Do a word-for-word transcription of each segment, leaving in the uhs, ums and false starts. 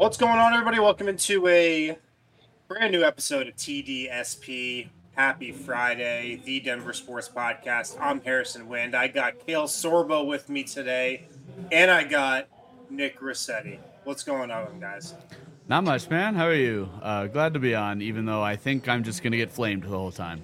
What's going on, everybody? Welcome into a brand new episode of T D S P. Happy Friday, the Denver Sports Podcast. I'm Harrison Wind. I got Cale Sorbo with me today, and I got Nick Rossetti. What's going on, guys? Not much, man. How are you? Uh, glad to be on, even though I think I'm just going to get flamed the whole time.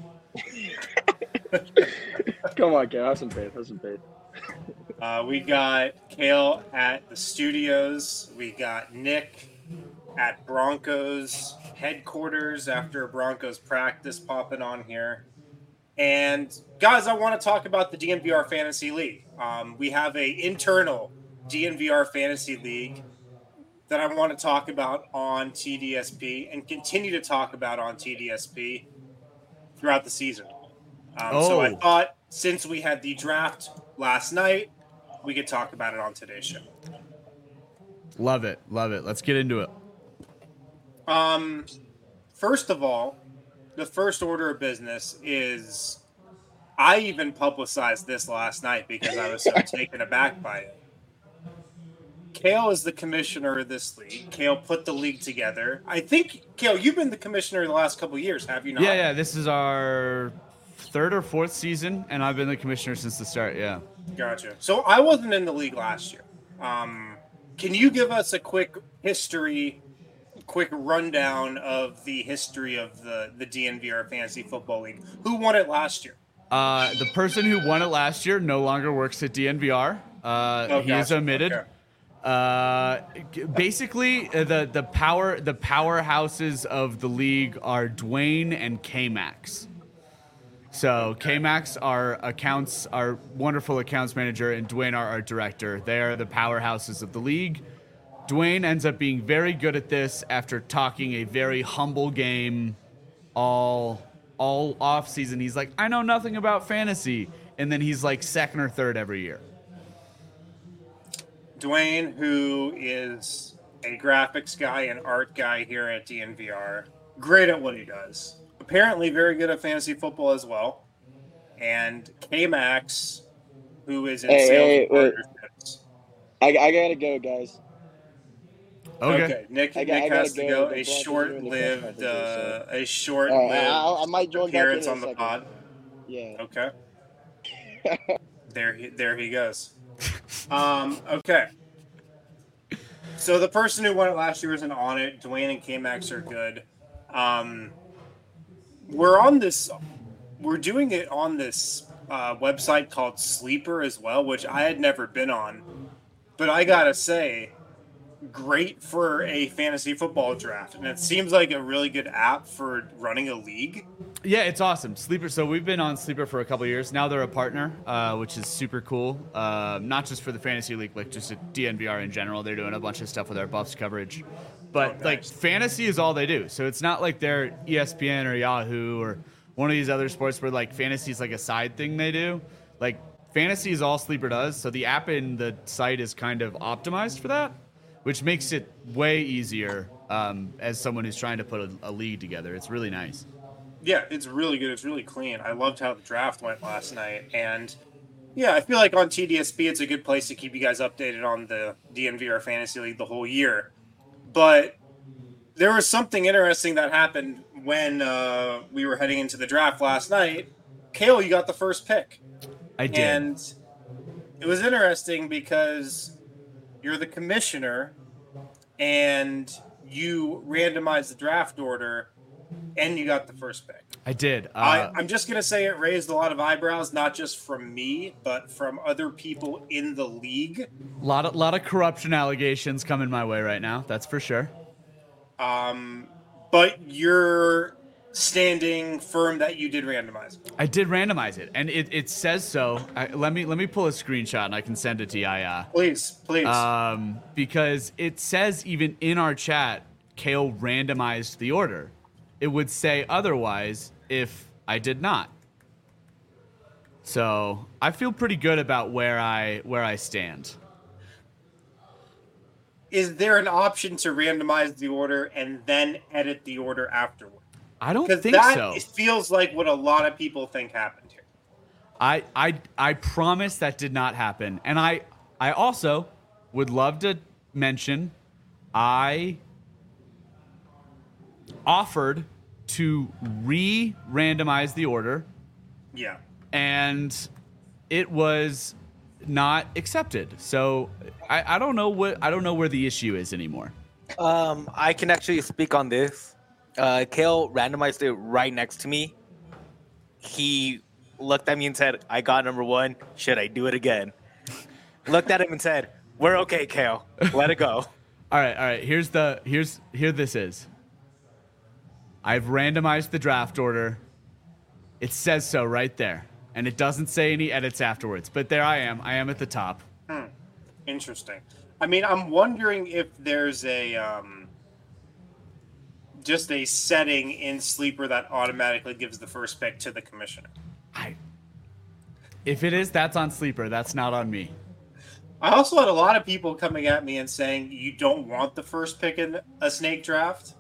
Come on, Cale. Have some faith. Have some faith. Uh, we got Cale at the studios. We got Nick at Broncos headquarters after a Broncos practice popping on here. And guys, I want to talk about the D N V R Fantasy League. Um, we have a internal D N V R Fantasy League that I want to talk about on T D S P and continue to talk about on T D S P throughout the season. Um, oh. So I thought since we had the draft last night, we could talk about it on today's show. Love it. Love it. Let's get into it. Um, first of all, the first order of business is I even publicized this last night because I was so taken aback by it. Cale is the commissioner of this league. Cale put the league together. I think, Cale, you've been the commissioner the last couple of years, have you not? Yeah, yeah. This is our third or fourth season, and I've been the commissioner since the start, yeah. Gotcha. So I wasn't in the league last year. Um, can you give us a quick history, quick rundown of the history of the, the D N V R Fantasy Football League? Who won it last year? Uh, the person who won it last year no longer works at D N V R. Uh, Oh, he is gotcha. omitted. Okay. Uh, g- basically, uh, the the power the powerhouses of the league are Dwayne and K-Max. So K-Max, our accounts, our wonderful accounts manager, and Dwayne, our art director. They are the powerhouses of the league. Dwayne ends up being very good at this after talking a very humble game all all off season. He's like, I know nothing about fantasy, and then he's like second or third every year. Dwayne, who is a graphics guy and art guy here at D N V R, great at what he does. Apparently very good at fantasy football as well. And K-Max, who is in Hey, sales hey, and wait. partnerships. I, I gotta go, guys. Okay. Okay, Nick, I got- Nick I gotta has to go. go. The A Broncos are in the short-lived, cup, I think, uh, a All short-lived right, I, I might join back in appearance in a on the second. pod. Yeah. Okay. there, he, there he goes. Um. Okay. So the person who won it last year isn't on it. Dwayne and K-Max are good. Um, we're on this. We're doing it on this uh, website called Sleeper as well, which I had never been on. But I gotta say, great for a fantasy football draft, and it seems like a really good app for running a league. Yeah, it's awesome. Sleeper. So we've been on Sleeper for a couple of years. Now they're a partner, uh, which is super cool. Uh, not just for the fantasy league, like just at D N V R in general. They're doing a bunch of stuff with our Buffs coverage. But Oh, nice. like fantasy is all they do. So it's not like they're E S P N or Yahoo or one of these other sports where like fantasy is like a side thing they do. Like fantasy is all Sleeper does. So the app and the site is kind of optimized for that, which makes it way easier um, as someone who's trying to put a, a league together. It's really nice. Yeah, it's really good. It's really clean. I loved how the draft went last night. And yeah, I feel like on T D S P, it's a good place to keep you guys updated on the D N V R Fantasy League the whole year. But there was something interesting that happened when uh, we were heading into the draft last night. Cale, you got the first pick. I did. And it was interesting because you're the commissioner and you randomized the draft order and you got the first pick. I did. Uh, I, I'm just going to say it raised a lot of eyebrows, not just from me, but from other people in the league. A lot of lot of corruption allegations coming my way right now. That's for sure. Um, but you're standing firm that you did randomize it. I did randomize it, and it, it says so. I, let me let me pull a screenshot, and I can send it to you. Uh, Please, please. um, because it says even in our chat, Cale randomized the order. It would say otherwise if I did not. So I feel pretty good about where I where I stand. Is there an option to randomize the order and then edit the order afterward? I don't Because think that so. it feels like what a lot of people think happened here. I, I, I promise that did not happen. And I, I also would love to mention I offered to re-randomize the order. Yeah. And it was not accepted. So I, I don't know what I don't know where the issue is anymore. Um, I can actually speak on this. Uh, Kale randomized it right next to me. He looked at me and said, "I got number one. Should I do it again?" Looked at him and said, "We're okay, Kale. Let it go." All right, all right. Here's the here's here this is. I've randomized the draft order. It says so right there. And it doesn't say any edits afterwards. But there I am. I am at the top. Hmm. Interesting. I mean, I'm wondering if there's a um, just a setting in Sleeper that automatically gives the first pick to the commissioner. I, if it is, that's on Sleeper. That's not on me. I also had a lot of people coming at me and saying you don't want the first pick in a snake draft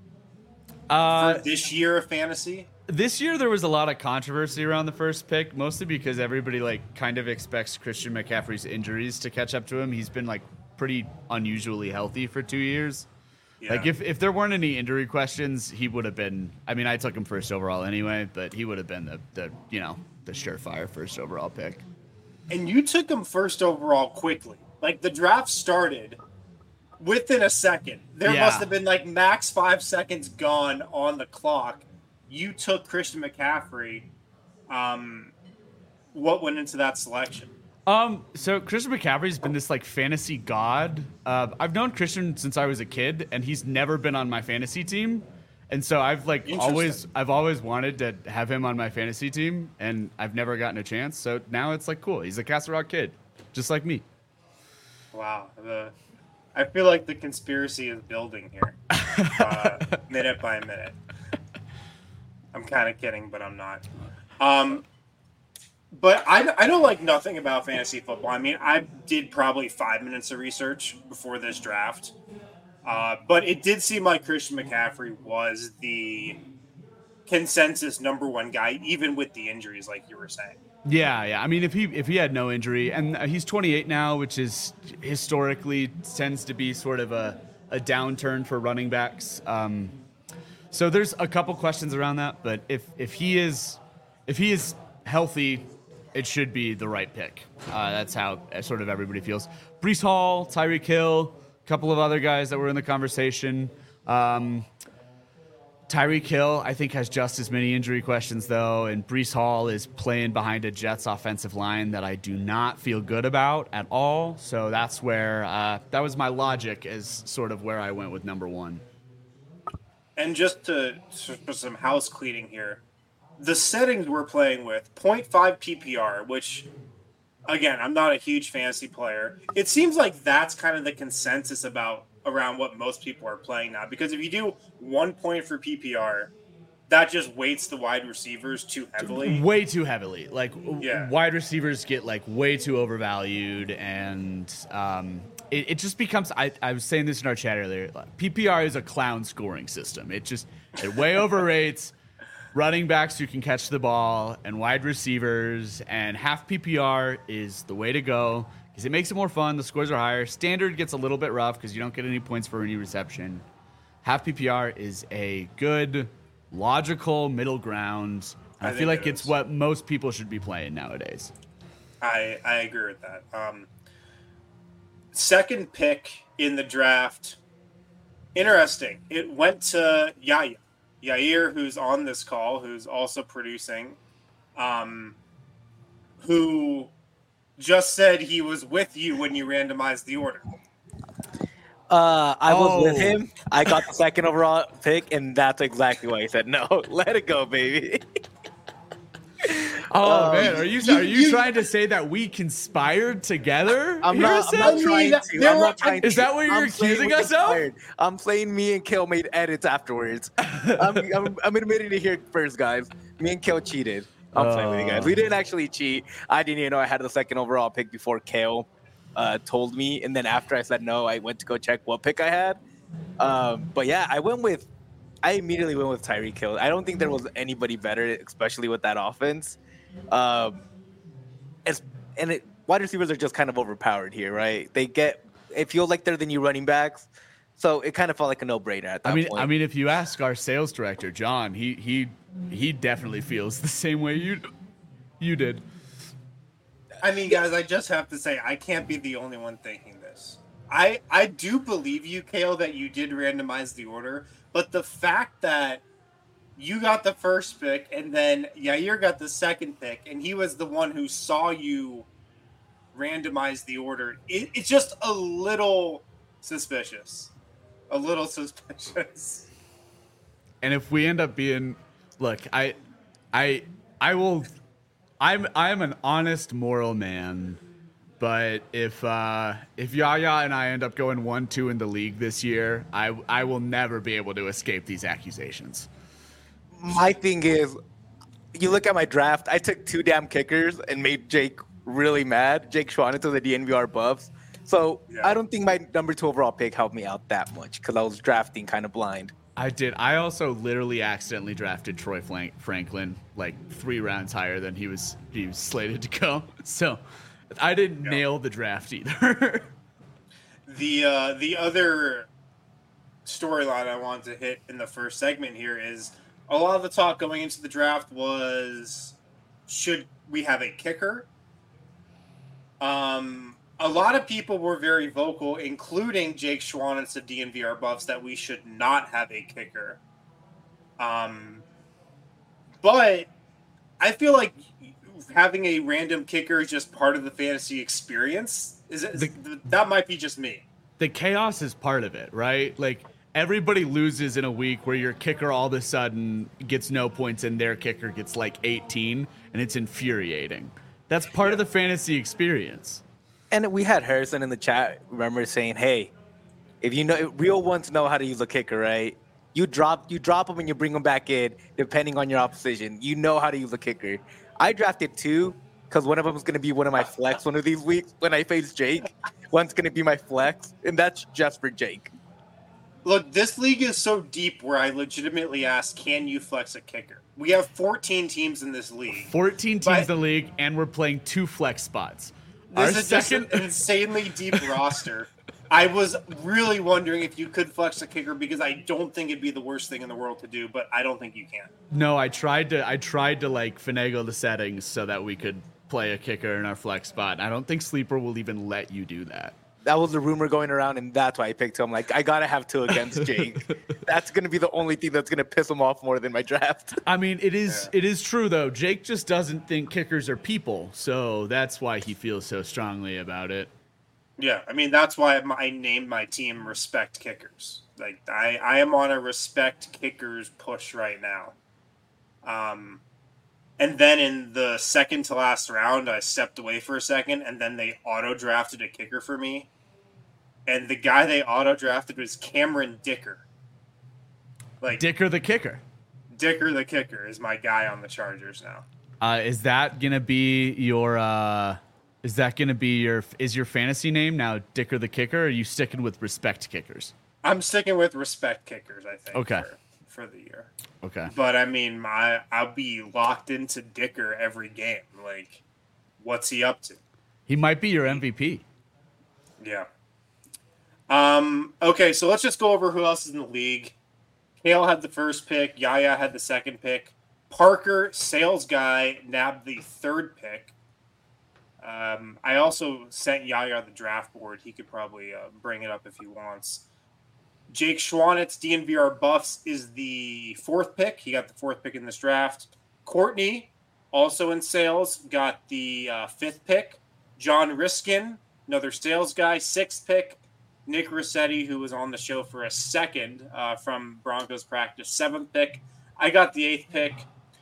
Uh, for this year of fantasy. This year there was a lot of controversy around the first pick, mostly because everybody like kind of expects Christian McCaffrey's injuries to catch up to him. He's been like pretty unusually healthy for two years. Yeah. Like if, if there weren't any injury questions, he would have been. I mean, I took him first overall anyway, but he would have been the, the you know the surefire first overall pick. And you took him first overall quickly. Like the draft started within a second. There Yeah. must have been like max five seconds gone on the clock. You took Christian McCaffrey. Um, what went into that selection? Um, so Christian McCaffrey's been this like fantasy god. Uh, I've known Christian since I was a kid, and he's never been on my fantasy team. And so I've like always, I've always wanted to have him on my fantasy team, and I've never gotten a chance. So now it's like cool. He's a Castle Rock kid, just like me. Wow, the I feel like the conspiracy is building here, uh, minute by minute. I'm kind of kidding, but I'm not. Um, but I, I know like nothing about fantasy football. I mean, I did probably five minutes of research before this draft. Uh, but it did seem like Christian McCaffrey was the consensus number one guy, even with the injuries, like you were saying. Yeah, yeah. I mean, if he if he had no injury, and he's twenty-eight now, which is historically tends to be sort of a, a downturn for running backs. Um, so there's a couple questions around that, but if if he is if he is healthy, it should be the right pick. Uh, that's how sort of everybody feels. Breece Hall, Tyreek Hill, a couple of other guys that were in the conversation. Um, Tyreek Hill, I think, has just as many injury questions, though, and Breece Hall is playing behind a Jets offensive line that I do not feel good about at all. So that's where, uh, that was my logic as sort of where I went with number one. And just to, for some house cleaning here, the settings we're playing with, zero point five P P R, which, again, I'm not a huge fantasy player. It seems like that's kind of the consensus about around what most people are playing now. Because if you do one point for P P R, that just weights the wide receivers too heavily. Way too heavily. Like, yeah. wide receivers get, like, way too overvalued. And um, it, it just becomes, I, I was saying this in our chat earlier, P P R is a clown scoring system. It just, it way overrates running backs who can catch the ball and wide receivers. And half P P R is the way to go. Because it makes it more fun. The scores are higher. Standard gets a little bit rough because you don't get any points for any reception. Half P P R is a good, logical middle ground. I, I feel like it it's what most people should be playing nowadays. I, I agree with that. Um, second pick in the draft. Interesting. It went to Yair. Yair, who's on this call, who's also producing, um, who just said he was with you when you randomized the order. Uh, I was Oh. with him. I got the second overall pick, and that's exactly why he said, no, let it go, baby. Oh Um, man, are you you- are you, you- trying to say that we conspired together? I'm not, I'm Harrison? not I trying mean, to. there I'm were- not trying Is to. that what you're I'm saying accusing we us of? conspired. I'm saying me and Kale made edits afterwards. I'm, I'm, I'm admitting it here first, guys. Me and Kale cheated. I'm playing with you guys. We didn't actually cheat. I didn't even know I had the second overall pick before Kale uh, told me. And then after I said no, I went to go check what pick I had. Um, but yeah, I went with, I immediately went with Tyreek Hill. I don't think there was anybody better, especially with that offense. Um, it's, and it, wide receivers are just kind of overpowered here, right? They get, it feels like they're the new running backs. So it kind of felt like a no-brainer at that I mean, point. I mean, if you ask our sales director, John, he he he definitely feels the same way you you did. I mean, guys, I just have to say, I can't be the only one thinking this. I I do believe you, Kale, that you did randomize the order, but the fact that you got the first pick and then Yair got the second pick, and he was the one who saw you randomize the order, it, it's just a little suspicious. A little suspicious. And if we end up being, look, I, I, I will, I'm, I'm an honest, moral man. But if uh, if Yaya and I end up going one two in the league this year, I I will never be able to escape these accusations. My thing is, you look at my draft, I took two damn kickers and made Jake really mad. Jake Schwan into the D N V R buffs. So Yeah. I don't think my number two overall pick helped me out that much because I was drafting kind of blind. I did. I also literally accidentally drafted Troy Flank- Franklin like three rounds higher than he was he was slated to go. So I didn't Yeah. nail the draft either. The uh, the other storyline I wanted to hit in the first segment here is a lot of the talk going into the draft was, should we have a kicker? Um, a lot of people were very vocal, including Jake Schwan and some D N V R buffs, that we should not have a kicker. Um, but I feel like having a random kicker is just part of the fantasy experience. Is it? The- that might be just me. The chaos is part of it, right? Like everybody loses in a week where your kicker all of a sudden gets no points and their kicker gets like eighteen, and it's infuriating. That's part of the fantasy experience. And we had Harrison in the chat, remember, saying, hey, if you know, real ones know how to use a kicker, right? You drop you drop them and you bring them back in, depending on your opposition. You know how to use a kicker. I drafted two because one of them is going to be one of my flex one of these weeks when I face Jake. One's going to be my flex, and that's just for Jake. Look, this league is so deep where I legitimately ask, can you flex a kicker? We have fourteen teams in this league. fourteen teams But- in the league, and we're playing two flex spots. Our This is second, just an insanely deep roster. I was really wondering if you could flex a kicker because I don't think it'd be the worst thing in the world to do, but I don't think you can. no, I tried to. I tried to like finagle the settings so that we could play a kicker in our flex spot. I don't think Sleeper will even let you do that. That was the rumor going around, and that's why I picked him. Like, I got to have two against Jake. That's going to be the only thing that's going to piss him off more than my draft. I mean, it is Yeah. it is true though. Jake just doesn't think kickers are people, so that's why he feels so strongly about it. Yeah, I mean, that's why I named my team Respect Kickers. Like, I, I am on a Respect Kickers push right now. Um, and then in the second to last round, I stepped away for a second, and then they auto-drafted a kicker for me. And the guy they auto-drafted was Cameron Dicker. Like, Dicker the kicker. Dicker the kicker is my guy on the Chargers now. Uh, is that gonna be your? Uh, is that gonna be your? Is your fantasy name now Dicker the kicker? Or are you sticking with Respect Kickers? I'm sticking with Respect Kickers, I think, Okay. for, for the year. Okay. But I mean, my I'll be locked into Dicker every game. Like, what's he up to? He might be your M V P. Yeah. Um. Okay, so let's just go over who else is in the league. Kale had the first pick. Yaya had the second pick. Parker, sales guy, nabbed the third pick. Um, I also sent Yaya the draft board. He could probably uh, bring it up if he wants. Jake Schwanitz, D N V R Buffs, is the fourth pick. He got the fourth pick in this draft. Courtney, also in sales, got the uh, fifth pick. John Riskin, another sales guy, sixth pick. Nick Rossetti, who was on the show for a second uh, from Broncos practice, seventh pick. I got the eighth pick.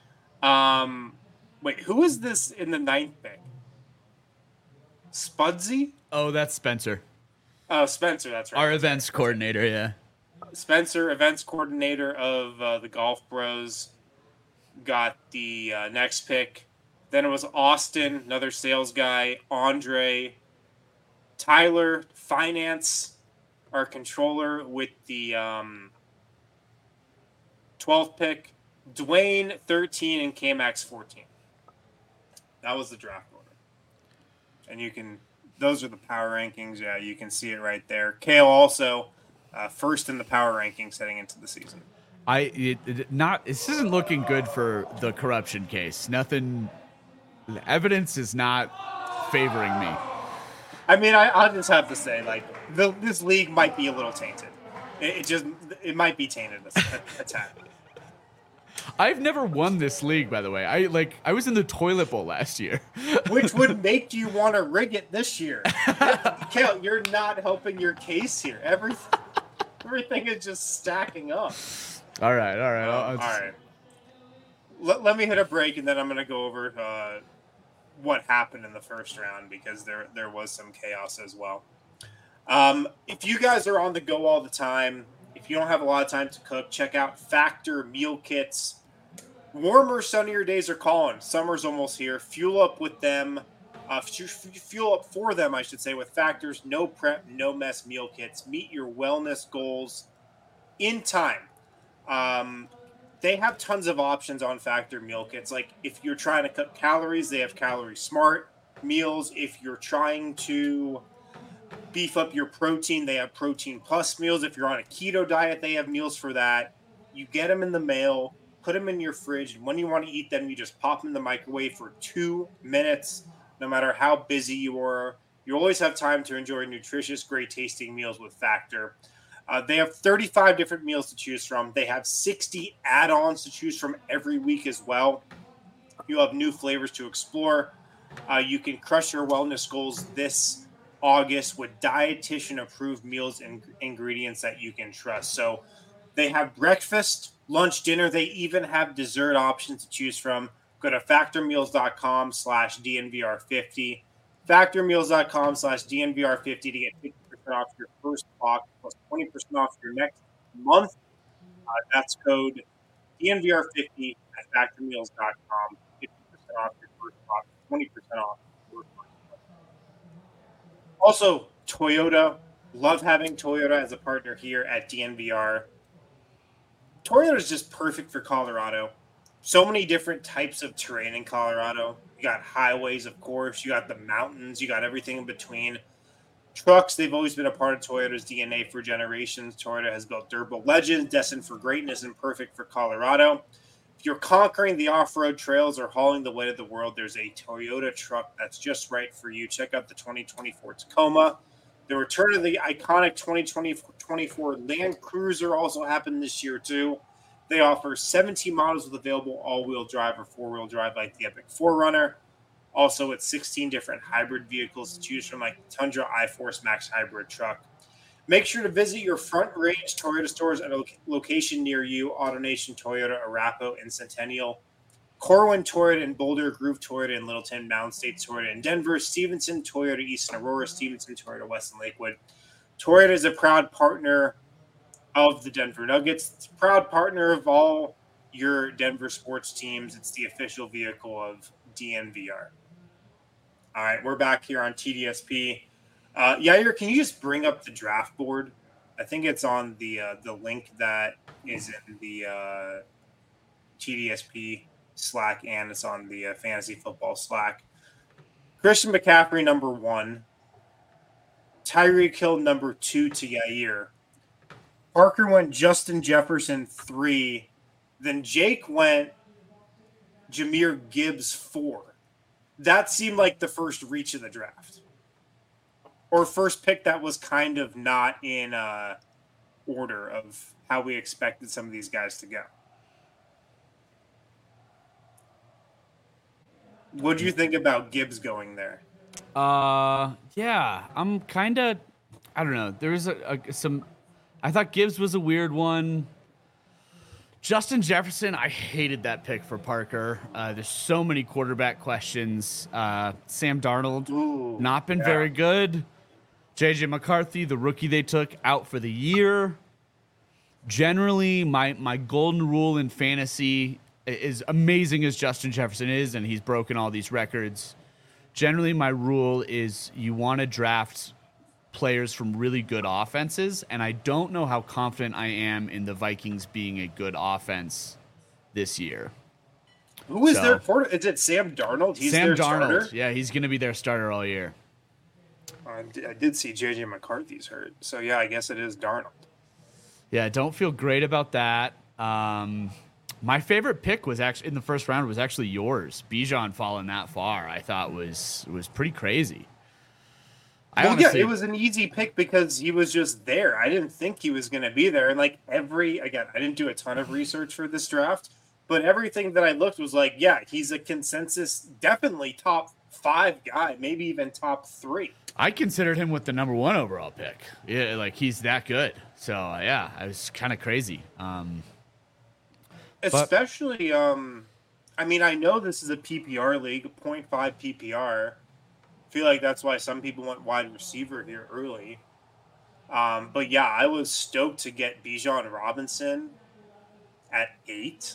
Um, wait, who is this in the ninth pick? Spudsy? Oh, that's Spencer, Oh, Spencer, that's right. our events coordinator. Yeah. Spencer, events coordinator of uh, the Golf Bros, got the uh, next pick. Then it was Austin, another sales guy. Andre, Tyler, finance, our controller with the um, twelfth pick. Dwayne, thirteen, and K-Max, fourteen. That was the draft order. And you can, those are the power rankings. Yeah, you can see it right there. Kale also uh, first in the power rankings heading into the season. I it, it, not this isn't looking good for the corruption case. Nothing, the evidence is not favoring me. I mean, I, I'll just have to say, like, the, this league might be a little tainted. It, it just, it might be tainted a, a tad. I've never won this league, by the way. I like I was in the toilet bowl last year, which would make you want to rig it this year. Kale, you're not helping your case here. Everything, everything is just stacking up. All right, all right, Um, I'll, I'll all right. Let, let me hit a break, and then I'm going to go over uh, what happened in the first round because there there was some chaos as well. Um, if you guys are on the go all the time, if you don't have a lot of time to cook, check out Factor Meal Kits. Warmer, sunnier days are calling. Summer's almost here. Fuel up with them. Uh, fuel up for them, I should say, with Factor's no prep, no mess meal kits. Meet your wellness goals in time. Um, they have tons of options on Factor meal kits. Like if you're trying to cut calories, they have Calorie Smart meals. If you're trying to beef up your protein, they have Protein Plus meals. If you're on a keto diet, they have meals for that. You get them in the mail, put them in your fridge, and when you want to eat them, you just pop them in the microwave for two minutes. No matter how busy you are, you always have time to enjoy nutritious, great-tasting meals with Factor. Uh, they have thirty-five different meals to choose from. They have sixty add-ons to choose from every week as well. You have new flavors to explore. Uh, you can crush your wellness goals this August with dietitian-approved meals and ingredients that you can trust. So they have breakfast, lunch, dinner. They even have dessert options to choose from. Go to factormeals.com slash DNVR50. Factormeals.com slash DNVR50 to get fifty percent off your first box plus twenty percent off your next month. Uh, that's code D N V R fifty at factormeals dot com. fifty percent off your first box, twenty percent off your first month. Also, Toyota. Love having Toyota as a partner here at D N V R. Toyota is just perfect for Colorado. So many different types of terrain in Colorado. You got highways, of course. You got the mountains. You got everything in between. Trucks, they've always been a part of Toyota's D N A for generations. Toyota has built durable legends, destined for greatness and perfect for Colorado. If you're conquering the off-road trails or hauling the weight of the world, there's a Toyota truck that's just right for you. Check out the twenty twenty-four Tacoma. The return of the iconic twenty twenty-four Land Cruiser also happened this year, too. They offer seventeen models with available all-wheel drive or four-wheel drive like the Epic four runner. Also, it's sixteen different hybrid vehicles to choose from like the Tundra iForce Max hybrid truck. Make sure to visit your Front Range Toyota stores at a location near you. AutoNation Toyota, Arapahoe, and Centennial. Corwin Toyota in Boulder, Groove Toyota in Littleton, Mountain State Toyota in Denver, Stevenson Toyota East and Aurora, Stevenson Toyota West and Lakewood. Toyota is a proud partner of the Denver Nuggets. It's a proud partner of all your Denver sports teams. It's the official vehicle of D N V R. All right, we're back here on T D S P. Uh, Yair, can you just bring up the draft board? I think it's on the uh, the link that is in the uh, T D S P Slack, and it's on the uh, Fantasy Football Slack. Christian McCaffrey, number one. Tyreek Hill, number two to Yair. Parker went Justin Jefferson, three. Then Jake went Jahmyr Gibbs, four. That seemed like the first reach of the draft. Or first pick that was kind of not in uh, order of how we expected some of these guys to go. What do you think about Gibbs going there? Uh, yeah, I'm kind of, I don't know. There was a, a, some, I thought Gibbs was a weird one. Justin Jefferson, I hated that pick for Parker. Uh, there's so many quarterback questions. Uh, Sam Darnold, Ooh, not been yeah. very good. J J McCarthy, the rookie they took, out for the year. Generally, my, my golden rule in fantasy, as amazing as Justin Jefferson is, and he's broken all these records, generally my rule is you want to draft players from really good offenses, and I don't know how confident I am in the Vikings being a good offense this year. Who is So- their quarter? Is it Sam Darnold? He's Sam their Darnold, starter? yeah, he's going to be their starter all year. I did, I did see J J McCarthy's hurt. So, yeah, I guess it is Darnold. Yeah, don't feel great about that. Um, my favorite pick was actually in the first round was actually yours. Bijan falling that far, I thought was was pretty crazy. I well, honestly, yeah, it was an easy pick because he was just there. I didn't think he was going to be there. And like every, again, I didn't do a ton of research for this draft, but everything that I looked was like, yeah, he's a consensus, definitely top five guy, maybe even top three. I considered him with the number one overall pick. Yeah, like he's that good. So uh, yeah, I was kind of crazy. Um, Especially, but, um, I mean, I know this is a P P R league, zero point five P P R. I feel like that's why some people went wide receiver here early. Um, but yeah, I was stoked to get Bijan Robinson at eight.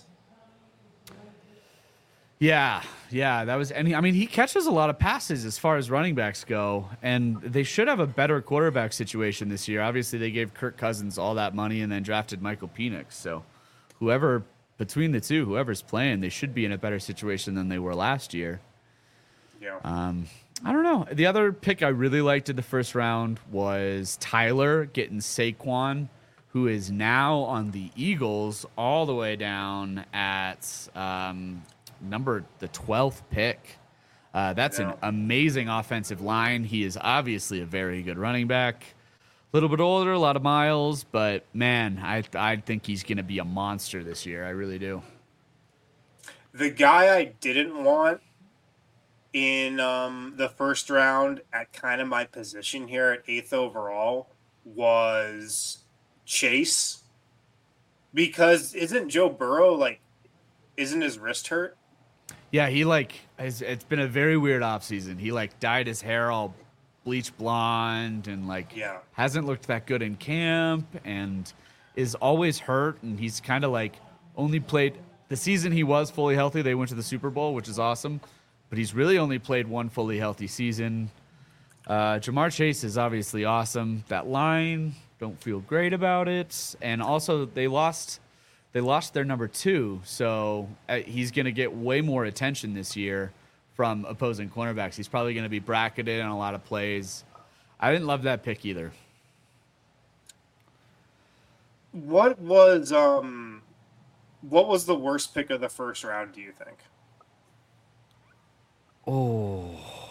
Yeah, yeah, that was, and he, I mean, he catches a lot of passes as far as running backs go, and they should have a better quarterback situation this year. Obviously, they gave Kirk Cousins all that money and then drafted Michael Penix. So, whoever between the two, whoever's playing, they should be in a better situation than they were last year. Yeah. Um, I don't know. The other pick I really liked in the first round was Tyler getting Saquon, who is now on the Eagles, all the way down at um, number the twelfth pick. Uh, that's yeah. an amazing offensive line. He is obviously a very good running back. A little bit older, a lot of miles, but man, I I think he's going to be a monster this year. I really do. The guy I didn't want in um, the first round at kind of my position here at eighth overall was Chase. Because isn't Joe Burrow, like, isn't his wrist hurt? Yeah, he, like, has, it's been a very weird offseason. He, like, dyed his hair all bleach blonde and, like, yeah. hasn't looked that good in camp and is always hurt. And he's kind of, like, only played the season he was fully healthy. They went to the Super Bowl, which is awesome. But he's really only played one fully healthy season. Uh, Jamar Chase is obviously awesome. That line, don't feel great about it. And also, they lost they lost their number two, so uh, he's going to get way more attention this year from opposing cornerbacks. He's probably going to be bracketed in a lot of plays. I didn't love that pick either. What was um, what was the worst pick of the first round, do you think? Oh.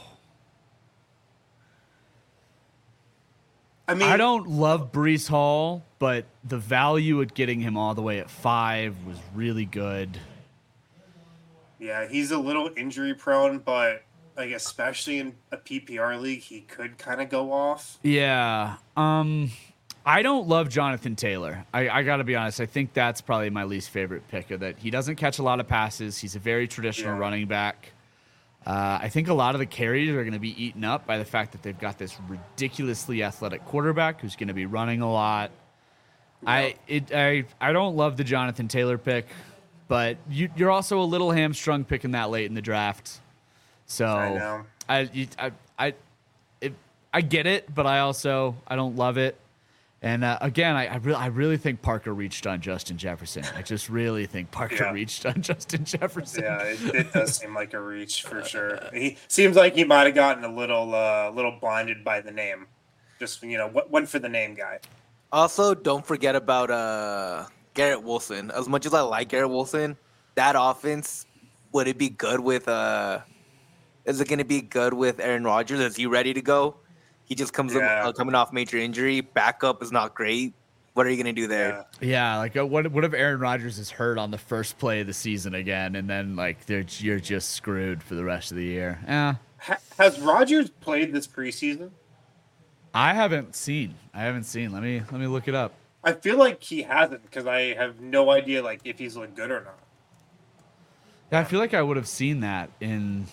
I mean, I don't love Breece Hall, but the value at getting him all the way at five was really good. Yeah, he's a little injury prone, but like especially in a P P R league, he could kind of go off. Yeah. Um, I don't love Jonathan Taylor. I, I got to be honest. I think that's probably my least favorite pick of that. He doesn't catch a lot of passes. He's a very traditional yeah. running back. Uh, I think a lot of the carries are going to be eaten up by the fact that they've got this ridiculously athletic quarterback who's going to be running a lot. Yep. I it I I don't love the Jonathan Taylor pick, but you, you're also a little hamstrung picking that late in the draft. So I know. I you, I I it, I get it, but I also I don't love it. And uh, again, I I, re- I really think Parker reached on Justin Jefferson. I just really think Parker yeah. reached on Justin Jefferson. Yeah, it, it does seem like a reach for sure. He seems like he might have gotten a little uh, little blinded by the name. Just you know, went for the name guy. Also, don't forget about uh, Garrett Wilson. As much as I like Garrett Wilson, that offense, would it be good with? Uh, is it going to be good with Aaron Rodgers? Is he ready to go? He just comes yeah. up, uh, coming off major injury. Backup is not great. What are you going to do there? Yeah, yeah like uh, what, what if Aaron Rodgers is hurt on the first play of the season again, and then like you're just screwed for the rest of the year? Yeah. Ha- has Rodgers played this preseason? I haven't seen. I haven't seen. Let me let me look it up. I feel like he hasn't because I have no idea like if he's looked good or not. Yeah, I feel like I would have seen that in.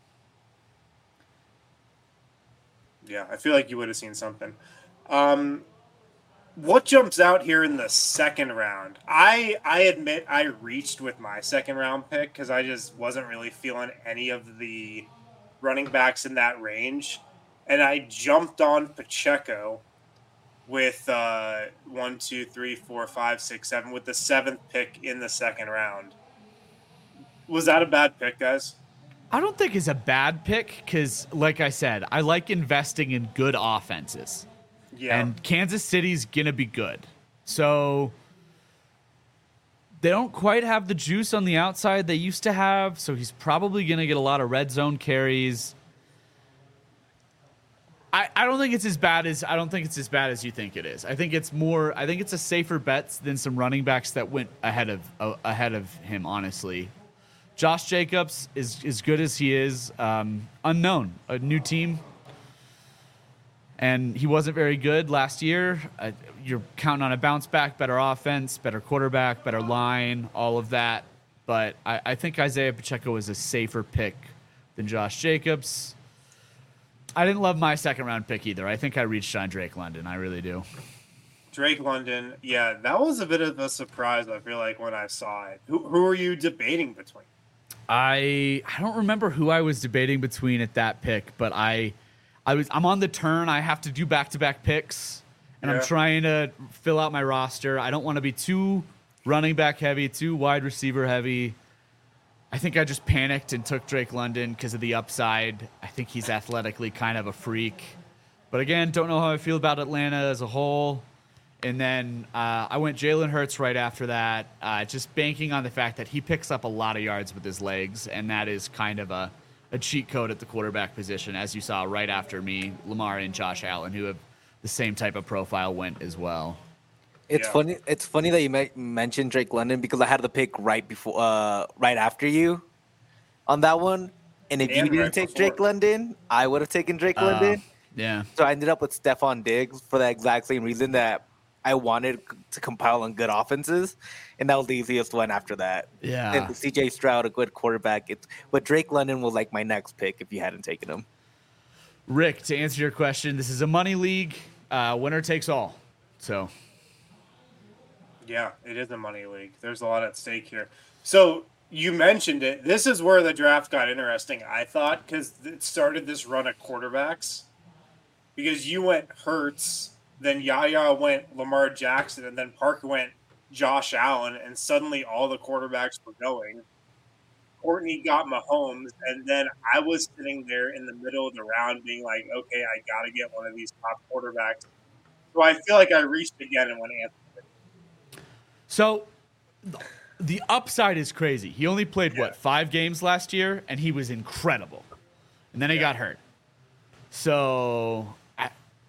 Yeah, I feel like you would have seen something. Um, what jumps out here in the second round? I I admit I reached with my second round pick because I just wasn't really feeling any of the running backs in that range. And I jumped on Pacheco with uh, one, two, three, four, five, six, seven, with the seventh pick in the second round. Was that a bad pick, guys? I don't think it's a bad pick because, like I said, I like investing in good offenses. Yeah. And Kansas City's going to be good. So they don't quite have the juice on the outside they used to have, so he's probably going to get a lot of red zone carries. I, I don't think it's as bad as I don't think it's as bad as you think it is. I think it's more I think it's a safer bet than some running backs that went ahead of uh, ahead of him, honestly. Josh Jacobs is as good as he is, um, unknown, a new team. And he wasn't very good last year. Uh, you're counting on a bounce back, better offense, better quarterback, better line, all of that. But I, I think Isaiah Pacheco is a safer pick than Josh Jacobs. I didn't love my second round pick either. I think I reached on Drake London. I really do. Drake London, yeah, that was a bit of a surprise, I feel like, when I saw it. Who, who are you debating between? I I don't remember who I was debating between at that pick, but I I was I'm on the turn. I have to do back-to-back picks, and yeah. I'm trying to fill out my roster. I don't want to be too running back heavy, too wide receiver heavy. I think I just panicked and took Drake London because of the upside. I think he's athletically kind of a freak. But again, don't know how I feel about Atlanta as a whole. And then uh, I went Jalen Hurts right after that, uh, just banking on the fact that he picks up a lot of yards with his legs, and that is kind of a, a cheat code at the quarterback position, as you saw right after me, Lamar and Josh Allen, who have the same type of profile, went as well. It's yeah. funny. It's funny that you may- mentioned Drake London because I had the pick right before, uh, right after you, on that one. And if and you didn't right take before. Drake London, I would have taken Drake uh, London. Yeah. So I ended up with Stephon Diggs for the exact same reason that I wanted to compile on good offenses, and that was the easiest one after that. Yeah. And C J Stroud, a good quarterback. It's, but Drake London was like my next pick if you hadn't taken him. Rick, to answer your question, this is a money league. Uh, winner takes all. So. Yeah, it is a money league. There's a lot at stake here. So you mentioned it. This is where the draft got interesting, I thought, because it started this run of quarterbacks. Because you went Hurts, then Yaya went Lamar Jackson, and then Parker went Josh Allen, and suddenly all the quarterbacks were going. Courtney got Mahomes, and then I was sitting there in the middle of the round being like, okay, I got to get one of these top quarterbacks. So I feel like I reached again and went Anthony. So the upside is crazy. He only played, yeah. what, five games last year, and he was incredible. And then he yeah. got hurt. So, I,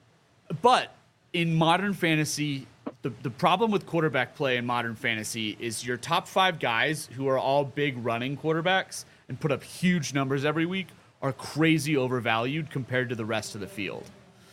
but in modern fantasy, the, the problem with quarterback play in modern fantasy is your top five guys who are all big running quarterbacks and put up huge numbers every week are crazy overvalued compared to the rest of the field.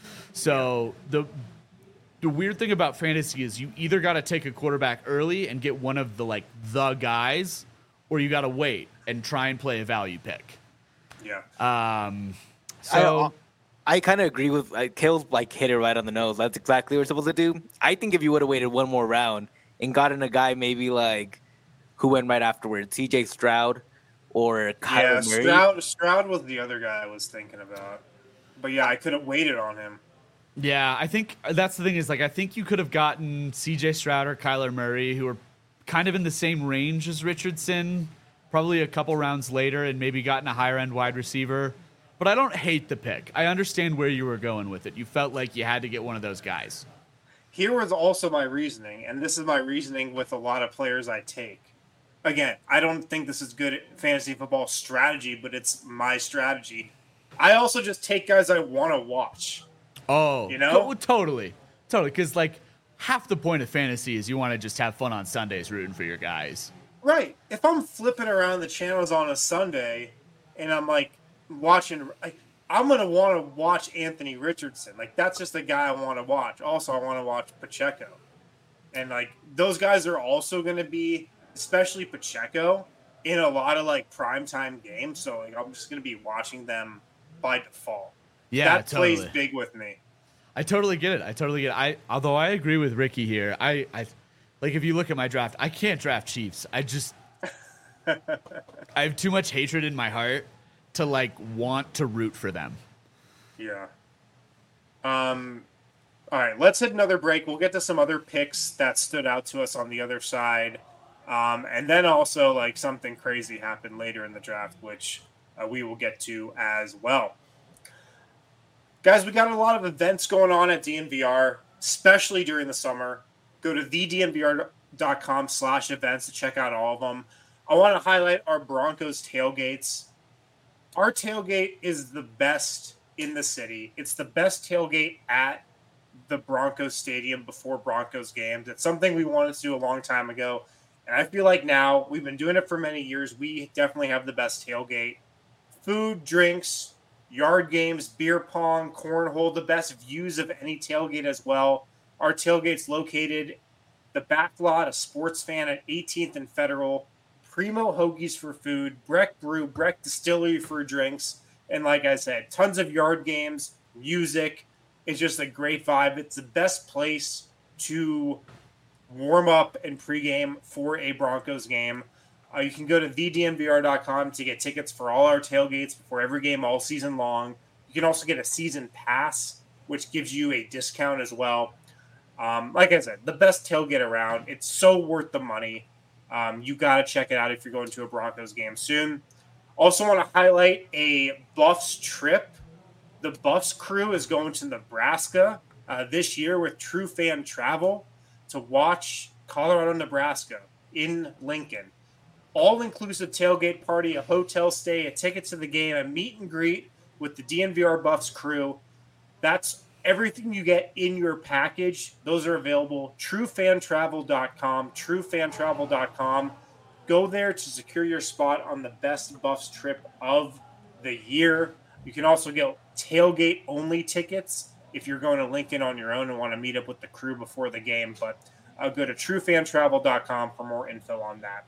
So the the weird thing about fantasy is you either got to take a quarterback early and get one of the like the guys, or you got to wait and try and play a value pick. Yeah. Um. So. I, I kind of agree with uh, Kale's like hit it right on the nose. That's exactly what we're supposed to do. I think if you would have waited one more round and gotten a guy maybe like who went right afterwards, C J Stroud or Kyler yeah, Murray. Stroud, Stroud was the other guy I was thinking about. But yeah, I could have waited on him. Yeah, I think that's the thing is like I think you could have gotten C J Stroud or Kyler Murray, who are kind of in the same range as Richardson, probably a couple rounds later, and maybe gotten a higher end wide receiver. But I don't hate the pick. I understand where you were going with it. You felt like you had to get one of those guys. Here was also my reasoning, and this is my reasoning with a lot of players I take. Again, I don't think this is good fantasy football strategy, but it's my strategy. I also just take guys I want to watch. Oh, you know? To- totally. Totally. Because, like, half the point of fantasy is you want to just have fun on Sundays rooting for your guys. Right. If I'm flipping around the channels on a Sunday and I'm, like, watching, like, I'm going to want to watch Anthony Richardson. Like, that's just the guy I want to watch. Also, I want to watch Pacheco. And, like, those guys are also going to be, especially Pacheco, in a lot of, like, primetime games. So, like, I'm just going to be watching them by default. Yeah, that totally. plays big with me. I totally get it. I totally get it. I although I agree with Ricky here. I, I like if you look at my draft, I can't draft Chiefs. I just I have too much hatred in my heart to like want to root for them. Yeah. Um all right, let's hit another break. We'll get to some other picks that stood out to us on the other side. Um, and then also like something crazy happened later in the draft, which uh, we will get to as well. Guys, we got a lot of events going on at D N V R, especially during the summer. Go to the d n v r dot com slash events to check out all of them. I want to highlight our Broncos tailgates. Our tailgate is the best in the city. It's the best tailgate at the Broncos Stadium before Broncos games. It's something we wanted to do a long time ago. And I feel like now, we've been doing it for many years. We definitely have the best tailgate. Food, drinks, yard games, beer pong, cornhole, the best views of any tailgate as well. Our tailgate's located the back lot of Sports Fan at eighteenth and Federal, Primo Hoagies for food, Breck Brew, Breck Distillery for drinks, and like I said, tons of yard games, music. It's just a great vibe. It's the best place to warm up and pregame for a Broncos game. Uh, you can go to the d n v r dot com to get tickets for all our tailgates before every game all season long. You can also get a season pass, which gives you a discount as well. Um, like I said, the best tailgate around. It's so worth the money. Um, you got to check it out if you're going to a Broncos game soon. Also want to highlight a Buffs trip. The Buffs crew is going to Nebraska uh, this year with True Fan Travel to watch Colorado, Nebraska in Lincoln. All-inclusive tailgate party, a hotel stay, a ticket to the game, a meet and greet with the D N V R Buffs crew. That's everything you get in your package. Those are available. true fan travel dot com, true fan travel dot com. Go there to secure your spot on the best Buffs trip of the year. You can also get tailgate-only tickets if you're going to Lincoln on your own and want to meet up with the crew before the game. But uh, go to true fan travel dot com for more info on that.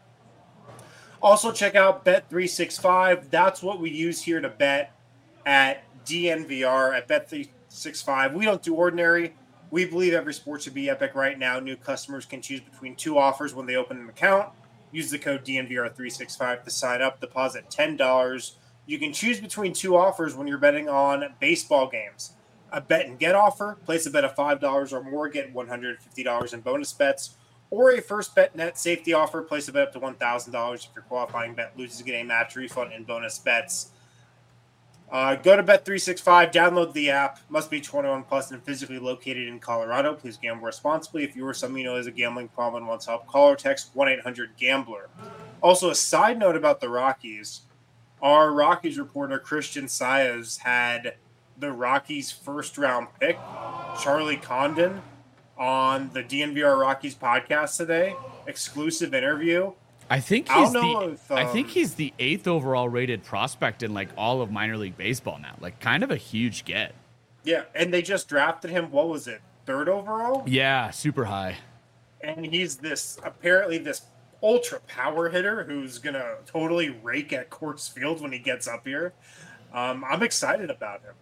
Also, check out Bet three sixty-five. That's what we use here to bet at D N V R, at Bet three sixty-five. We don't do ordinary. We believe every sport should be epic right now. New customers can choose between two offers when they open an account. Use the code D N V R three sixty-five to sign up. Deposit ten dollars. You can choose between two offers when you're betting on baseball games. A bet and get offer, place a bet of five dollars or more, get one hundred fifty dollars in bonus bets. Or a first bet net safety offer, place a bet up to one thousand dollars. If your qualifying bet loses, get a match refund and bonus bets. Uh, go to Bet three sixty-five, download the app. Must be twenty-one plus and physically located in Colorado. Please gamble responsibly. If you or someone you know has a gambling problem and wants help, call or text one eight hundred gambler. Also, a side note about the Rockies. Our Rockies reporter, Christian Saez, had the Rockies' first-round pick, Charlie Condon, on the D N V R Rockies podcast today. Exclusive interview. I think he's the if, um, I think he's the eighth overall rated prospect in like all of minor league baseball now. Like kind of a huge get. Yeah, and they just drafted him, what was it, third overall? Yeah, super high. And he's this apparently this ultra power hitter who's gonna totally rake at Coors Field when he gets up here. Um, I'm excited about him.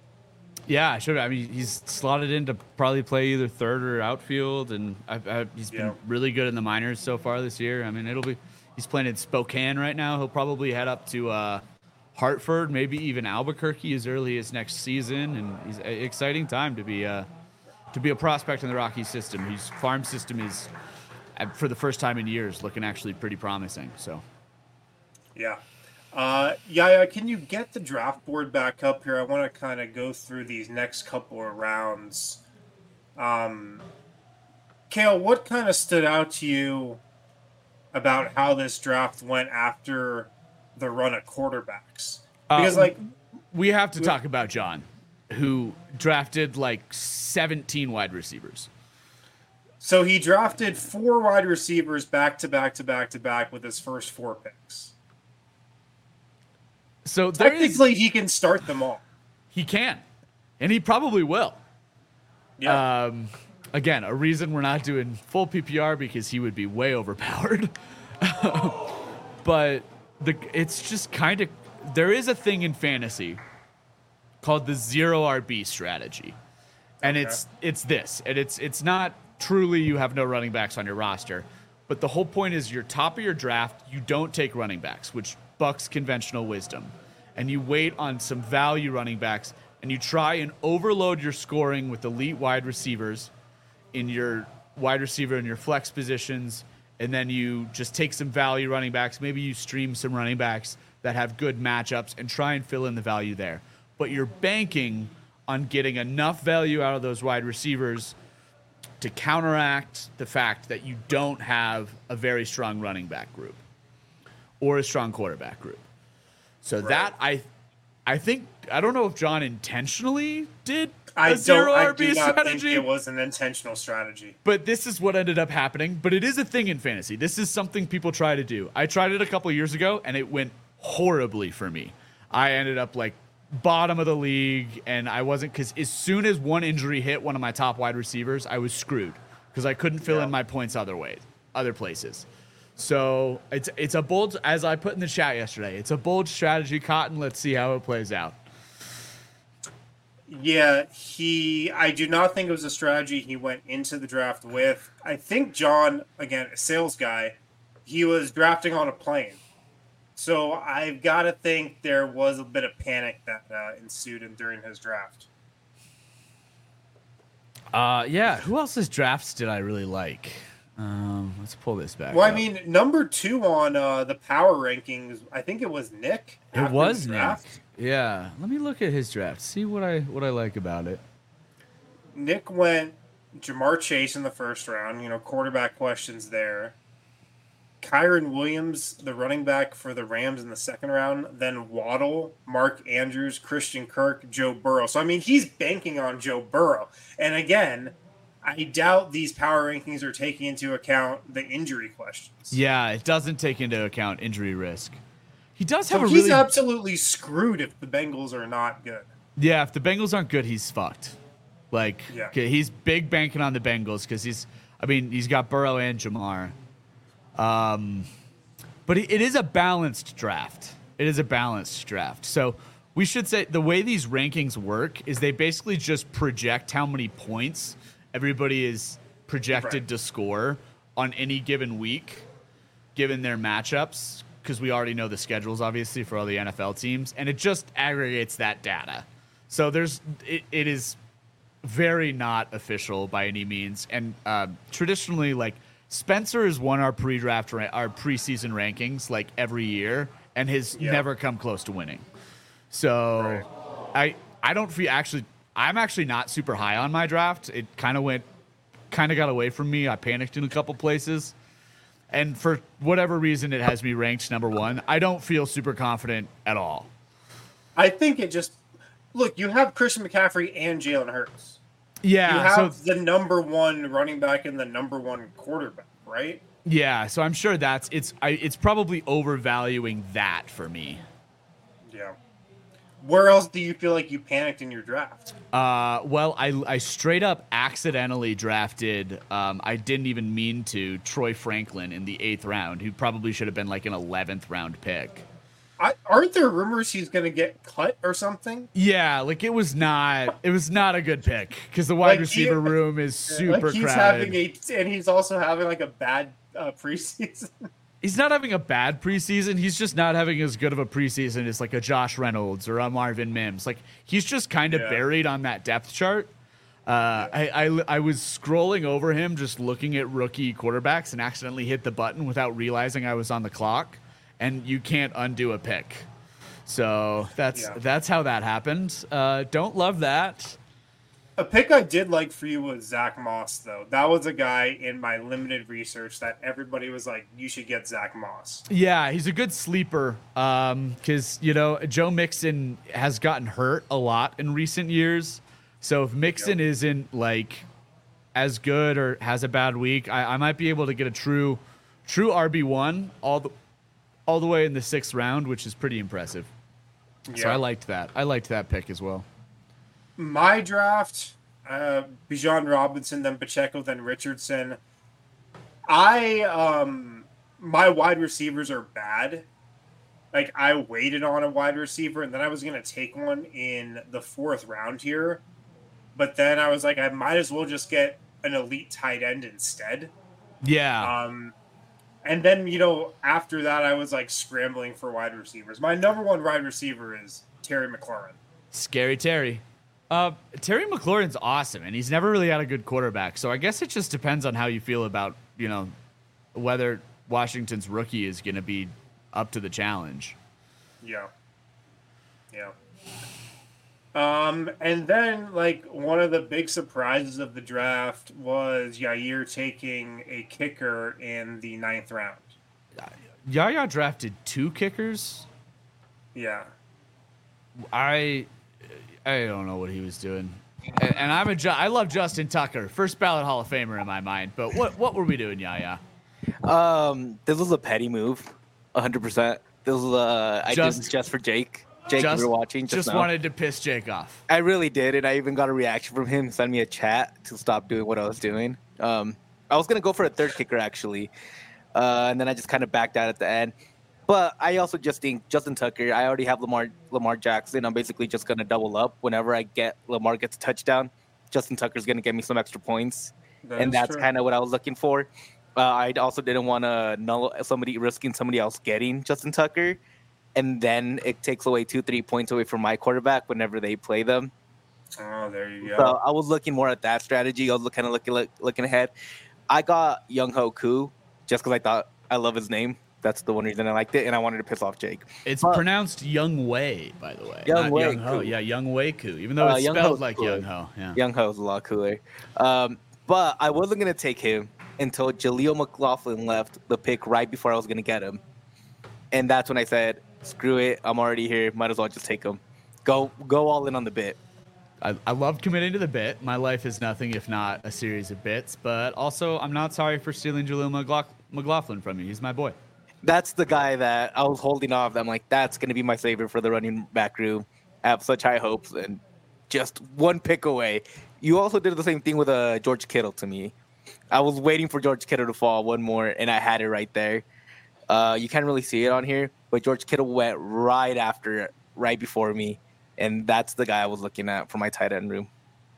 Yeah, sure. I mean, he's slotted in to probably play either third or outfield, and I, I, he's been Yeah. really good in the minors so far this year. I mean, it'll be he's playing in Spokane right now. He'll probably head up to uh, Hartford, maybe even Albuquerque as early as next season, and he's an exciting time to be uh, to be a prospect in the Rockies system. His farm system is, for the first time in years, looking actually pretty promising. So, Yeah. Uh, Yaya, can you get the draft board back up here? I want to kind of go through these next couple of rounds. Um, Kale, what kind of stood out to you about how this draft went after the run of quarterbacks? Because, Uh, like, we have to talk about John, who drafted like seventeen wide receivers. so he drafted four wide receivers back to back to back to back with his first four picks. So there is, Technically, he can start them all. he can, and he probably will. Yeah. Um, again, a reason we're not doing full P P R because he would be way overpowered. But the it's just kind of there is a thing in fantasy called the zero R B strategy, and Okay. it's it's this, and it's it's not truly you have no running backs on your roster, but the whole point is your top of your draft you don't take running backs, which bucks conventional wisdom, and you wait on some value running backs, and you try and overload your scoring with elite wide receivers in your wide receiver and your flex positions, and then you just take some value running backs. Maybe you stream some running backs that have good matchups and try and fill in the value there. But you're banking on getting enough value out of those wide receivers to counteract the fact that you don't have a very strong running back group or a strong quarterback group. So Right. that I I think I don't know if John intentionally did a I zero don't. I R B do not strategy, think it was an intentional strategy. but this is what ended up happening. But it is a thing in fantasy. This is something people try to do. I tried it a couple years ago, and it went horribly for me. I ended up like bottom of the league, and I wasn't because as soon as one injury hit one of my top wide receivers, I was screwed because I couldn't fill Yeah. in my points other ways, other places. So it's it's a bold, as I put in the chat yesterday, it's a bold strategy, Cotton. Let's see how it plays out. Yeah, he. I do not think it was a strategy he went into the draft with. I think John, again, a sales guy, he was drafting on a plane. So I've got to think there was a bit of panic that uh, ensued in, during his draft. Uh, yeah. Who else's drafts did I really like? Um, let's pull this back. Well, I up. mean, number two on uh, the power rankings, I think it was Nick. It after was the Nick. draft. Yeah. Let me look at his draft. See what I what I like about it. Nick went Jamar Chase in the first round. You know, quarterback questions there. Kyron Williams, the running back for the Rams in the second round. Then Waddle, Mark Andrews, Christian Kirk, Joe Burrow. So, I mean, he's banking on Joe Burrow. And again, I doubt these power rankings are taking into account the injury questions. Yeah, it doesn't take into account injury risk. He does have So a he's really absolutely screwed if the Bengals are not good. yeah. If the Bengals aren't good, he's fucked. Like Yeah. okay, he's big banking on the Bengals because he's. I mean, he's got Burrow and Jamar. Um, but it, it is a balanced draft. It is a balanced draft. So we should say the way these rankings work is they basically just project how many points everybody is projected Right. to score on any given week, given their matchups, because we already know the schedules, obviously, for all the N F L teams, and it just aggregates that data. So there's it, it is very not official by any means, and uh, traditionally, like Spencer has won our pre-draft, ra- our preseason rankings like every year, and has Yeah. never come close to winning. So I I don't feel actually I'm actually not super high on my draft. It kind of went kind of got away from me. I panicked in a couple places. And for whatever reason, it has me ranked number one. I don't feel super confident at all. I think it just look. You have Christian McCaffrey and Jalen Hurts. Yeah. You have so the number one running back and the number one quarterback, right? yeah. So I'm sure that's it's I, it's probably overvaluing that for me. Yeah. Where else do you feel like you panicked in your draft? Uh, well, I I straight up accidentally drafted. Um, I didn't even mean to Troy Franklin in the eighth round, who probably should have been like an eleventh round pick. I, aren't there rumors he's going to get cut or something? Yeah, like it was not it was not a good pick because the wide Like, he- receiver room is super like he's crowded. having a, and he's also having like a bad uh, preseason. He's not having a bad preseason. He's just not having as good of a preseason as like a Josh Reynolds or a Marvin Mims. Like he's just kind of Yeah. buried on that depth chart. Uh, I, I I was scrolling over him, just looking at rookie quarterbacks, and accidentally hit the button without realizing I was on the clock. And you can't undo a pick. So that's Yeah. that's how that happened. Uh, don't love that. A pick I did like for you was Zach Moss, though. That was a guy in my limited research that everybody was like, you should get Zach Moss. Yeah, he's a good sleeper because, you know, Joe Mixon has gotten hurt a lot in recent years. So if Mixon Yep. isn't, like, as good or has a bad week, I, I might be able to get a true true R B one all the, all the way in the sixth round, which is pretty impressive. So Yeah. I liked that. I liked that pick as well. My draft, uh, Bijan Robinson, then Pacheco, then Richardson. I, um, my wide receivers are bad. Like, I waited on a wide receiver, and then I was going to take one in the fourth round here. But then I was like, I might as well just get an elite tight end instead. Yeah. Um, and then, you know, after that, I was like scrambling for wide receivers. My number one wide receiver is Terry McLaurin. Scary Terry. Uh, Terry McLaurin's awesome, and he's never really had a good quarterback. So I guess it just depends on how you feel about, you know, whether Washington's rookie is going to be up to the challenge. Yeah. Yeah. Um, and then like one of the big surprises of the draft was Yair taking a kicker in the ninth round. Yaya drafted two kickers. Yeah. I I don't know what he was doing. And, and I'm a Ju- I love Justin Tucker, first ballot Hall of Famer in my mind. But what what were we doing, Yaya? Um, this was a petty move, one hundred percent. This was uh, I Just- did this just for Jake. Jake, just we were watching just, just now. wanted to piss Jake off. I really did, and I even got a reaction from him. Send me a chat to stop doing what I was doing. Um, I was gonna go for a third kicker actually, uh, and then I just kind of backed out at the end. But I also just think Justin Tucker. I already have Lamar Lamar Jackson. I'm basically just gonna double up whenever I get Lamar gets a touchdown. Justin Tucker's gonna get me some extra points, That and is that's true. kind of what I was looking for. Uh, I also didn't want to null somebody risking somebody else getting Justin Tucker, and then it takes away two, three points away from my quarterback whenever they play them. Oh, there you go. So I was looking more at that strategy. I was kind of looking look, looking ahead. I got Young Ho Koo just because I thought I love his name. That's the one reason I liked it, and I wanted to piss off Jake. It's But- pronounced Young Wei, by the way. Young not Wei Young Ho. Koo. Yeah, Young Wei Koo. Even though Uh, it's Young spelled Ho's like cooler. Young Ho. Yeah. Young Ho's a lot cooler. Um, but I wasn't gonna take him until Jaleel McLaughlin left the pick right before I was gonna get him, and that's when I said, "Screw it, I'm already here. Might as well just take him. Go, go all in on the bit." I, I love committing to the bit. My life is nothing if not a series of bits. But also, I'm not sorry for stealing Jaleel McLaugh- McLaughlin from you. He's my boy. That's the guy that I was holding off. I'm like, that's gonna be my savior for the running back room. I have such high hopes, and just one pick away. You also did the same thing with uh, George Kittle to me. I was waiting for George Kittle to fall one more, and I had it right there. Uh, you can't really see it on here, but George Kittle went right after, right before me, and that's the guy I was looking at for my tight end room.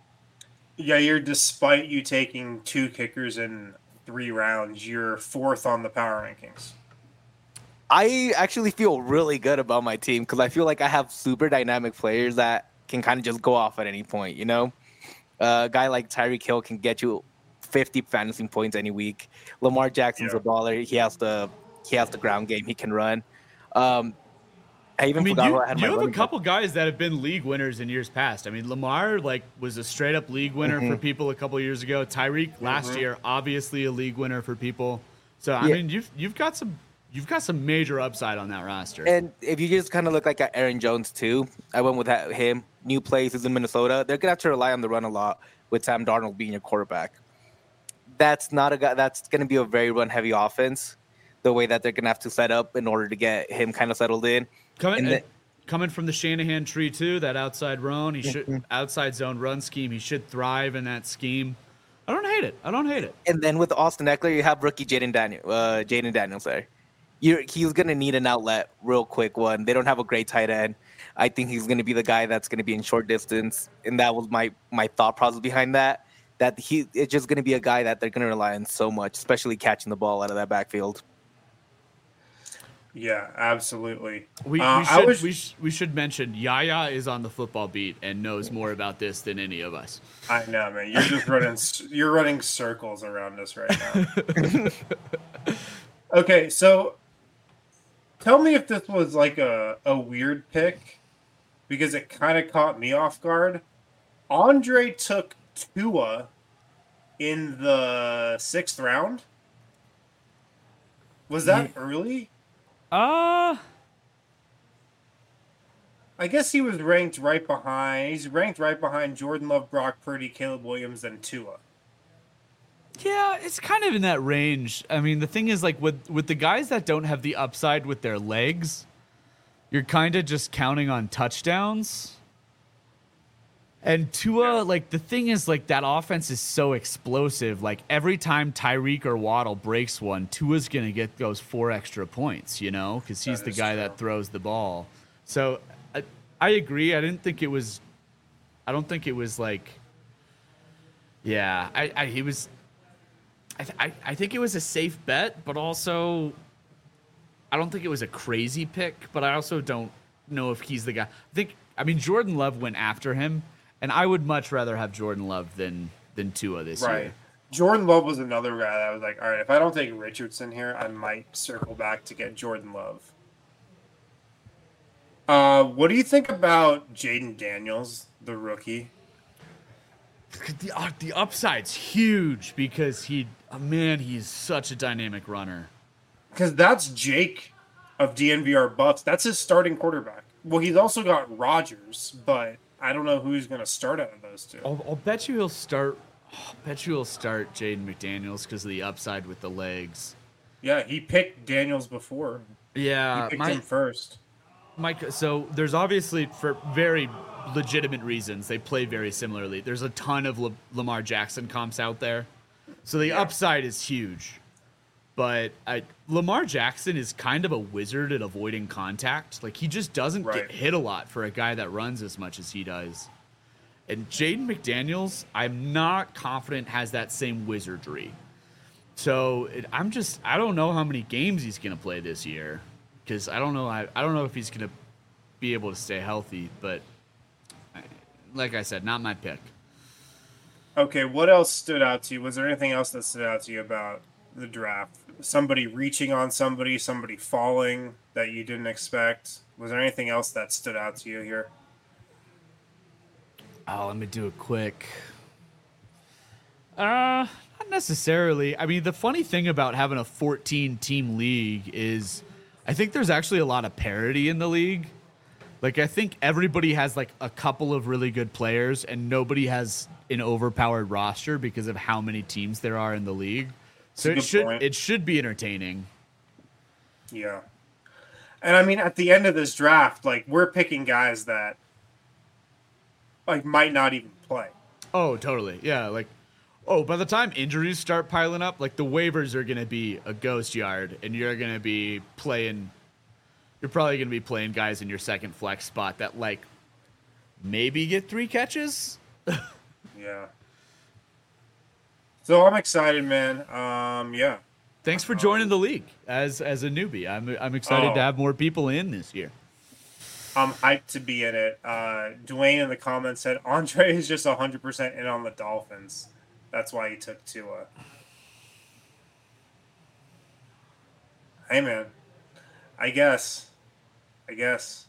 Yair, despite you taking two kickers in three rounds, you're fourth on the power rankings. I actually feel really good about my team because I feel like I have super dynamic players that can kind of just go off at any point, you know? Uh, a guy like Tyreek Hill can get you fifty fantasy points any week. Lamar Jackson's Yeah. a baller. He has the he has the ground game. He can run. Um, I even I mean, forgot you, who I had you my have a running back. couple guys that have been league winners in years past. I mean, Lamar like was a straight up league winner Mm-hmm. for people a couple years ago. Tyreek last Mhm. year, obviously a league winner for people. So I Yeah. mean, you've you've got some you've got some major upside on that roster. And if you just kind of look like at Aaron Jones too, I went with that, him. New places in Minnesota, they're gonna have to rely on the run a lot with Sam Darnold being your quarterback. That's not a guy. That's gonna be a very run heavy offense. The way that they're gonna have to set up in order to get him kind of settled in. Coming And uh, the- coming from the Shanahan tree too, that outside run, he Mm-hmm. should outside zone run scheme. He should thrive in that scheme. I don't hate it. I don't hate it. And then with Austin Eckler, you have rookie Jaden Daniel, uh, Jaden Daniels there. You're, he's gonna need an outlet real quick. One, they don't have a great tight end. I think he's gonna be the guy that's gonna be in short distance, and that was my my thought process behind that. That he it's just gonna be a guy that they're gonna rely on so much, especially catching the ball out of that backfield. Yeah, absolutely. We, Uh, we I should was- we, sh- we should mention Yaya is on the football beat and knows more about this than any of us. I know, man. You're just running. s- You're running circles around us right now. Okay, so tell me if this was like a, a weird pick because it kind of caught me off guard. Andre took Tua in the sixth round. Was that early? Uh I guess he was ranked right behind. He's ranked right behind Jordan Love, Brock Purdy, Caleb Williams, and Tua. yeah, it's kind of in that range. I mean, the thing is like with with the guys that don't have the upside with their legs, you're kind of just counting on touchdowns. And Tua, Yeah. like the thing is, like that offense is so explosive. Like every time Tyreek or Waddle breaks one, Tua's gonna get those four extra points, you know, because he's That the is guy true. that throws the ball. So I, I agree. I didn't think it was. I don't think it was like. Yeah, I, I he was. I, th- I I think it was a safe bet, but also. I don't think it was a crazy pick, but I also don't know if he's the guy. I think. I mean, Jordan Love went after him. And I would much rather have Jordan Love than than Tua this Right. year. Jordan Love was another guy that was like, all right, if I don't take Richardson here, I might circle back to get Jordan Love. Uh, what do you think about Jaden Daniels, the rookie? The, uh, the upside's huge because he, oh man, he's such a dynamic runner. Because that's Jake of D N V R Bucks. That's his starting quarterback. Well, he's also got Rodgers, but I don't know who he's going to start out of those two. I'll, I'll bet you he'll start. I'll bet you he'll start Jaden McDaniels because of the upside with the legs. Yeah, he picked Daniels before. Yeah, He picked my, him first. Mike. So there's obviously, for very legitimate reasons, they play very similarly. There's a ton of La- Lamar Jackson comps out there, so the Yeah. upside is huge. But I, Lamar Jackson is kind of a wizard at avoiding contact. Like, he just doesn't Right. get hit a lot for a guy that runs as much as he does. And Jaden McDaniels, I'm not confident has that same wizardry. So it, I'm just, I don't know how many games he's going to play this year, because I don't know, I, I don't know if he's going to be able to stay healthy. But I, like I said, not my pick. Okay, what else stood out to you? Was there anything else that stood out to you about the draft? Somebody reaching on somebody, somebody falling that you didn't expect? Was there anything else that stood out to you here? Oh, let me do it quick. Uh, not necessarily. I mean, the funny thing about having a fourteen team league is I think there's actually a lot of parity in the league. Like, I think everybody has like a couple of really good players and nobody has an overpowered roster because of how many teams there are in the league. So That's a it good should point. it should be entertaining. Yeah. And I mean, at the end of this draft, like, we're picking guys that like might not even play. Oh, totally. Yeah, like, oh, by the time injuries start piling up, like, the waivers are going to be a ghost yard, and you're going to be playing, you're probably going to be playing guys in your second flex spot that, like, maybe get three catches. Yeah. So I'm excited, man. Um, yeah. Thanks for joining the league as as a newbie. I'm I'm excited Oh. to have more people in this year. I'm hyped to be in it. Uh, Dwayne in the comments said Andre is just one hundred percent in on the Dolphins. That's why he took Tua. Hey, man. I guess. I guess.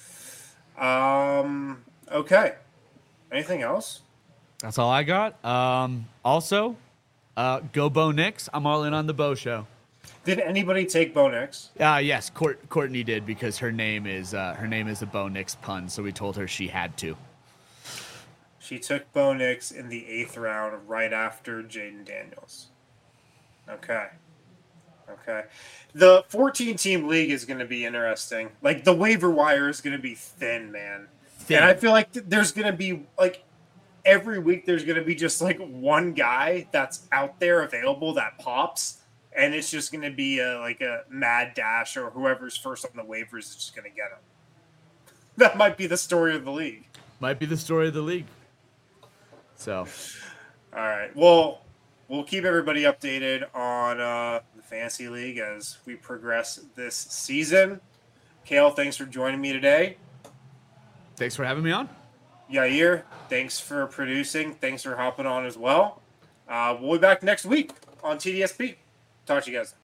Um. Okay. Anything else? That's all I got. Um, also, uh, go Bo Nix. I'm all in on the Bo show. Did anybody take Bo Nix? Uh, yes, Court, Courtney did because her name is uh, her name is a Bo Nix pun, so we told her she had to. She took Bo Nix in the eighth round, right after Jaden Daniels. Okay. Okay. The fourteen-team league is going to be interesting. Like, the waiver wire is going to be thin, man. Thin. And I feel like th- there's going to be, like, every week there's going to be just, like, one guy that's out there available that pops. And it's just going to be a, like a mad dash, or whoever's first on the waivers is just going to get him. That might be the story of the league. Might be the story of the league. So, All right. Well, we'll keep everybody updated on uh, the Fantasy League as we progress this season. Kale, thanks for joining me today. thanks for having me on. Yair, thanks for producing. Thanks for hopping on as well. Uh, we'll be back next week on T D S P. Talk to you guys.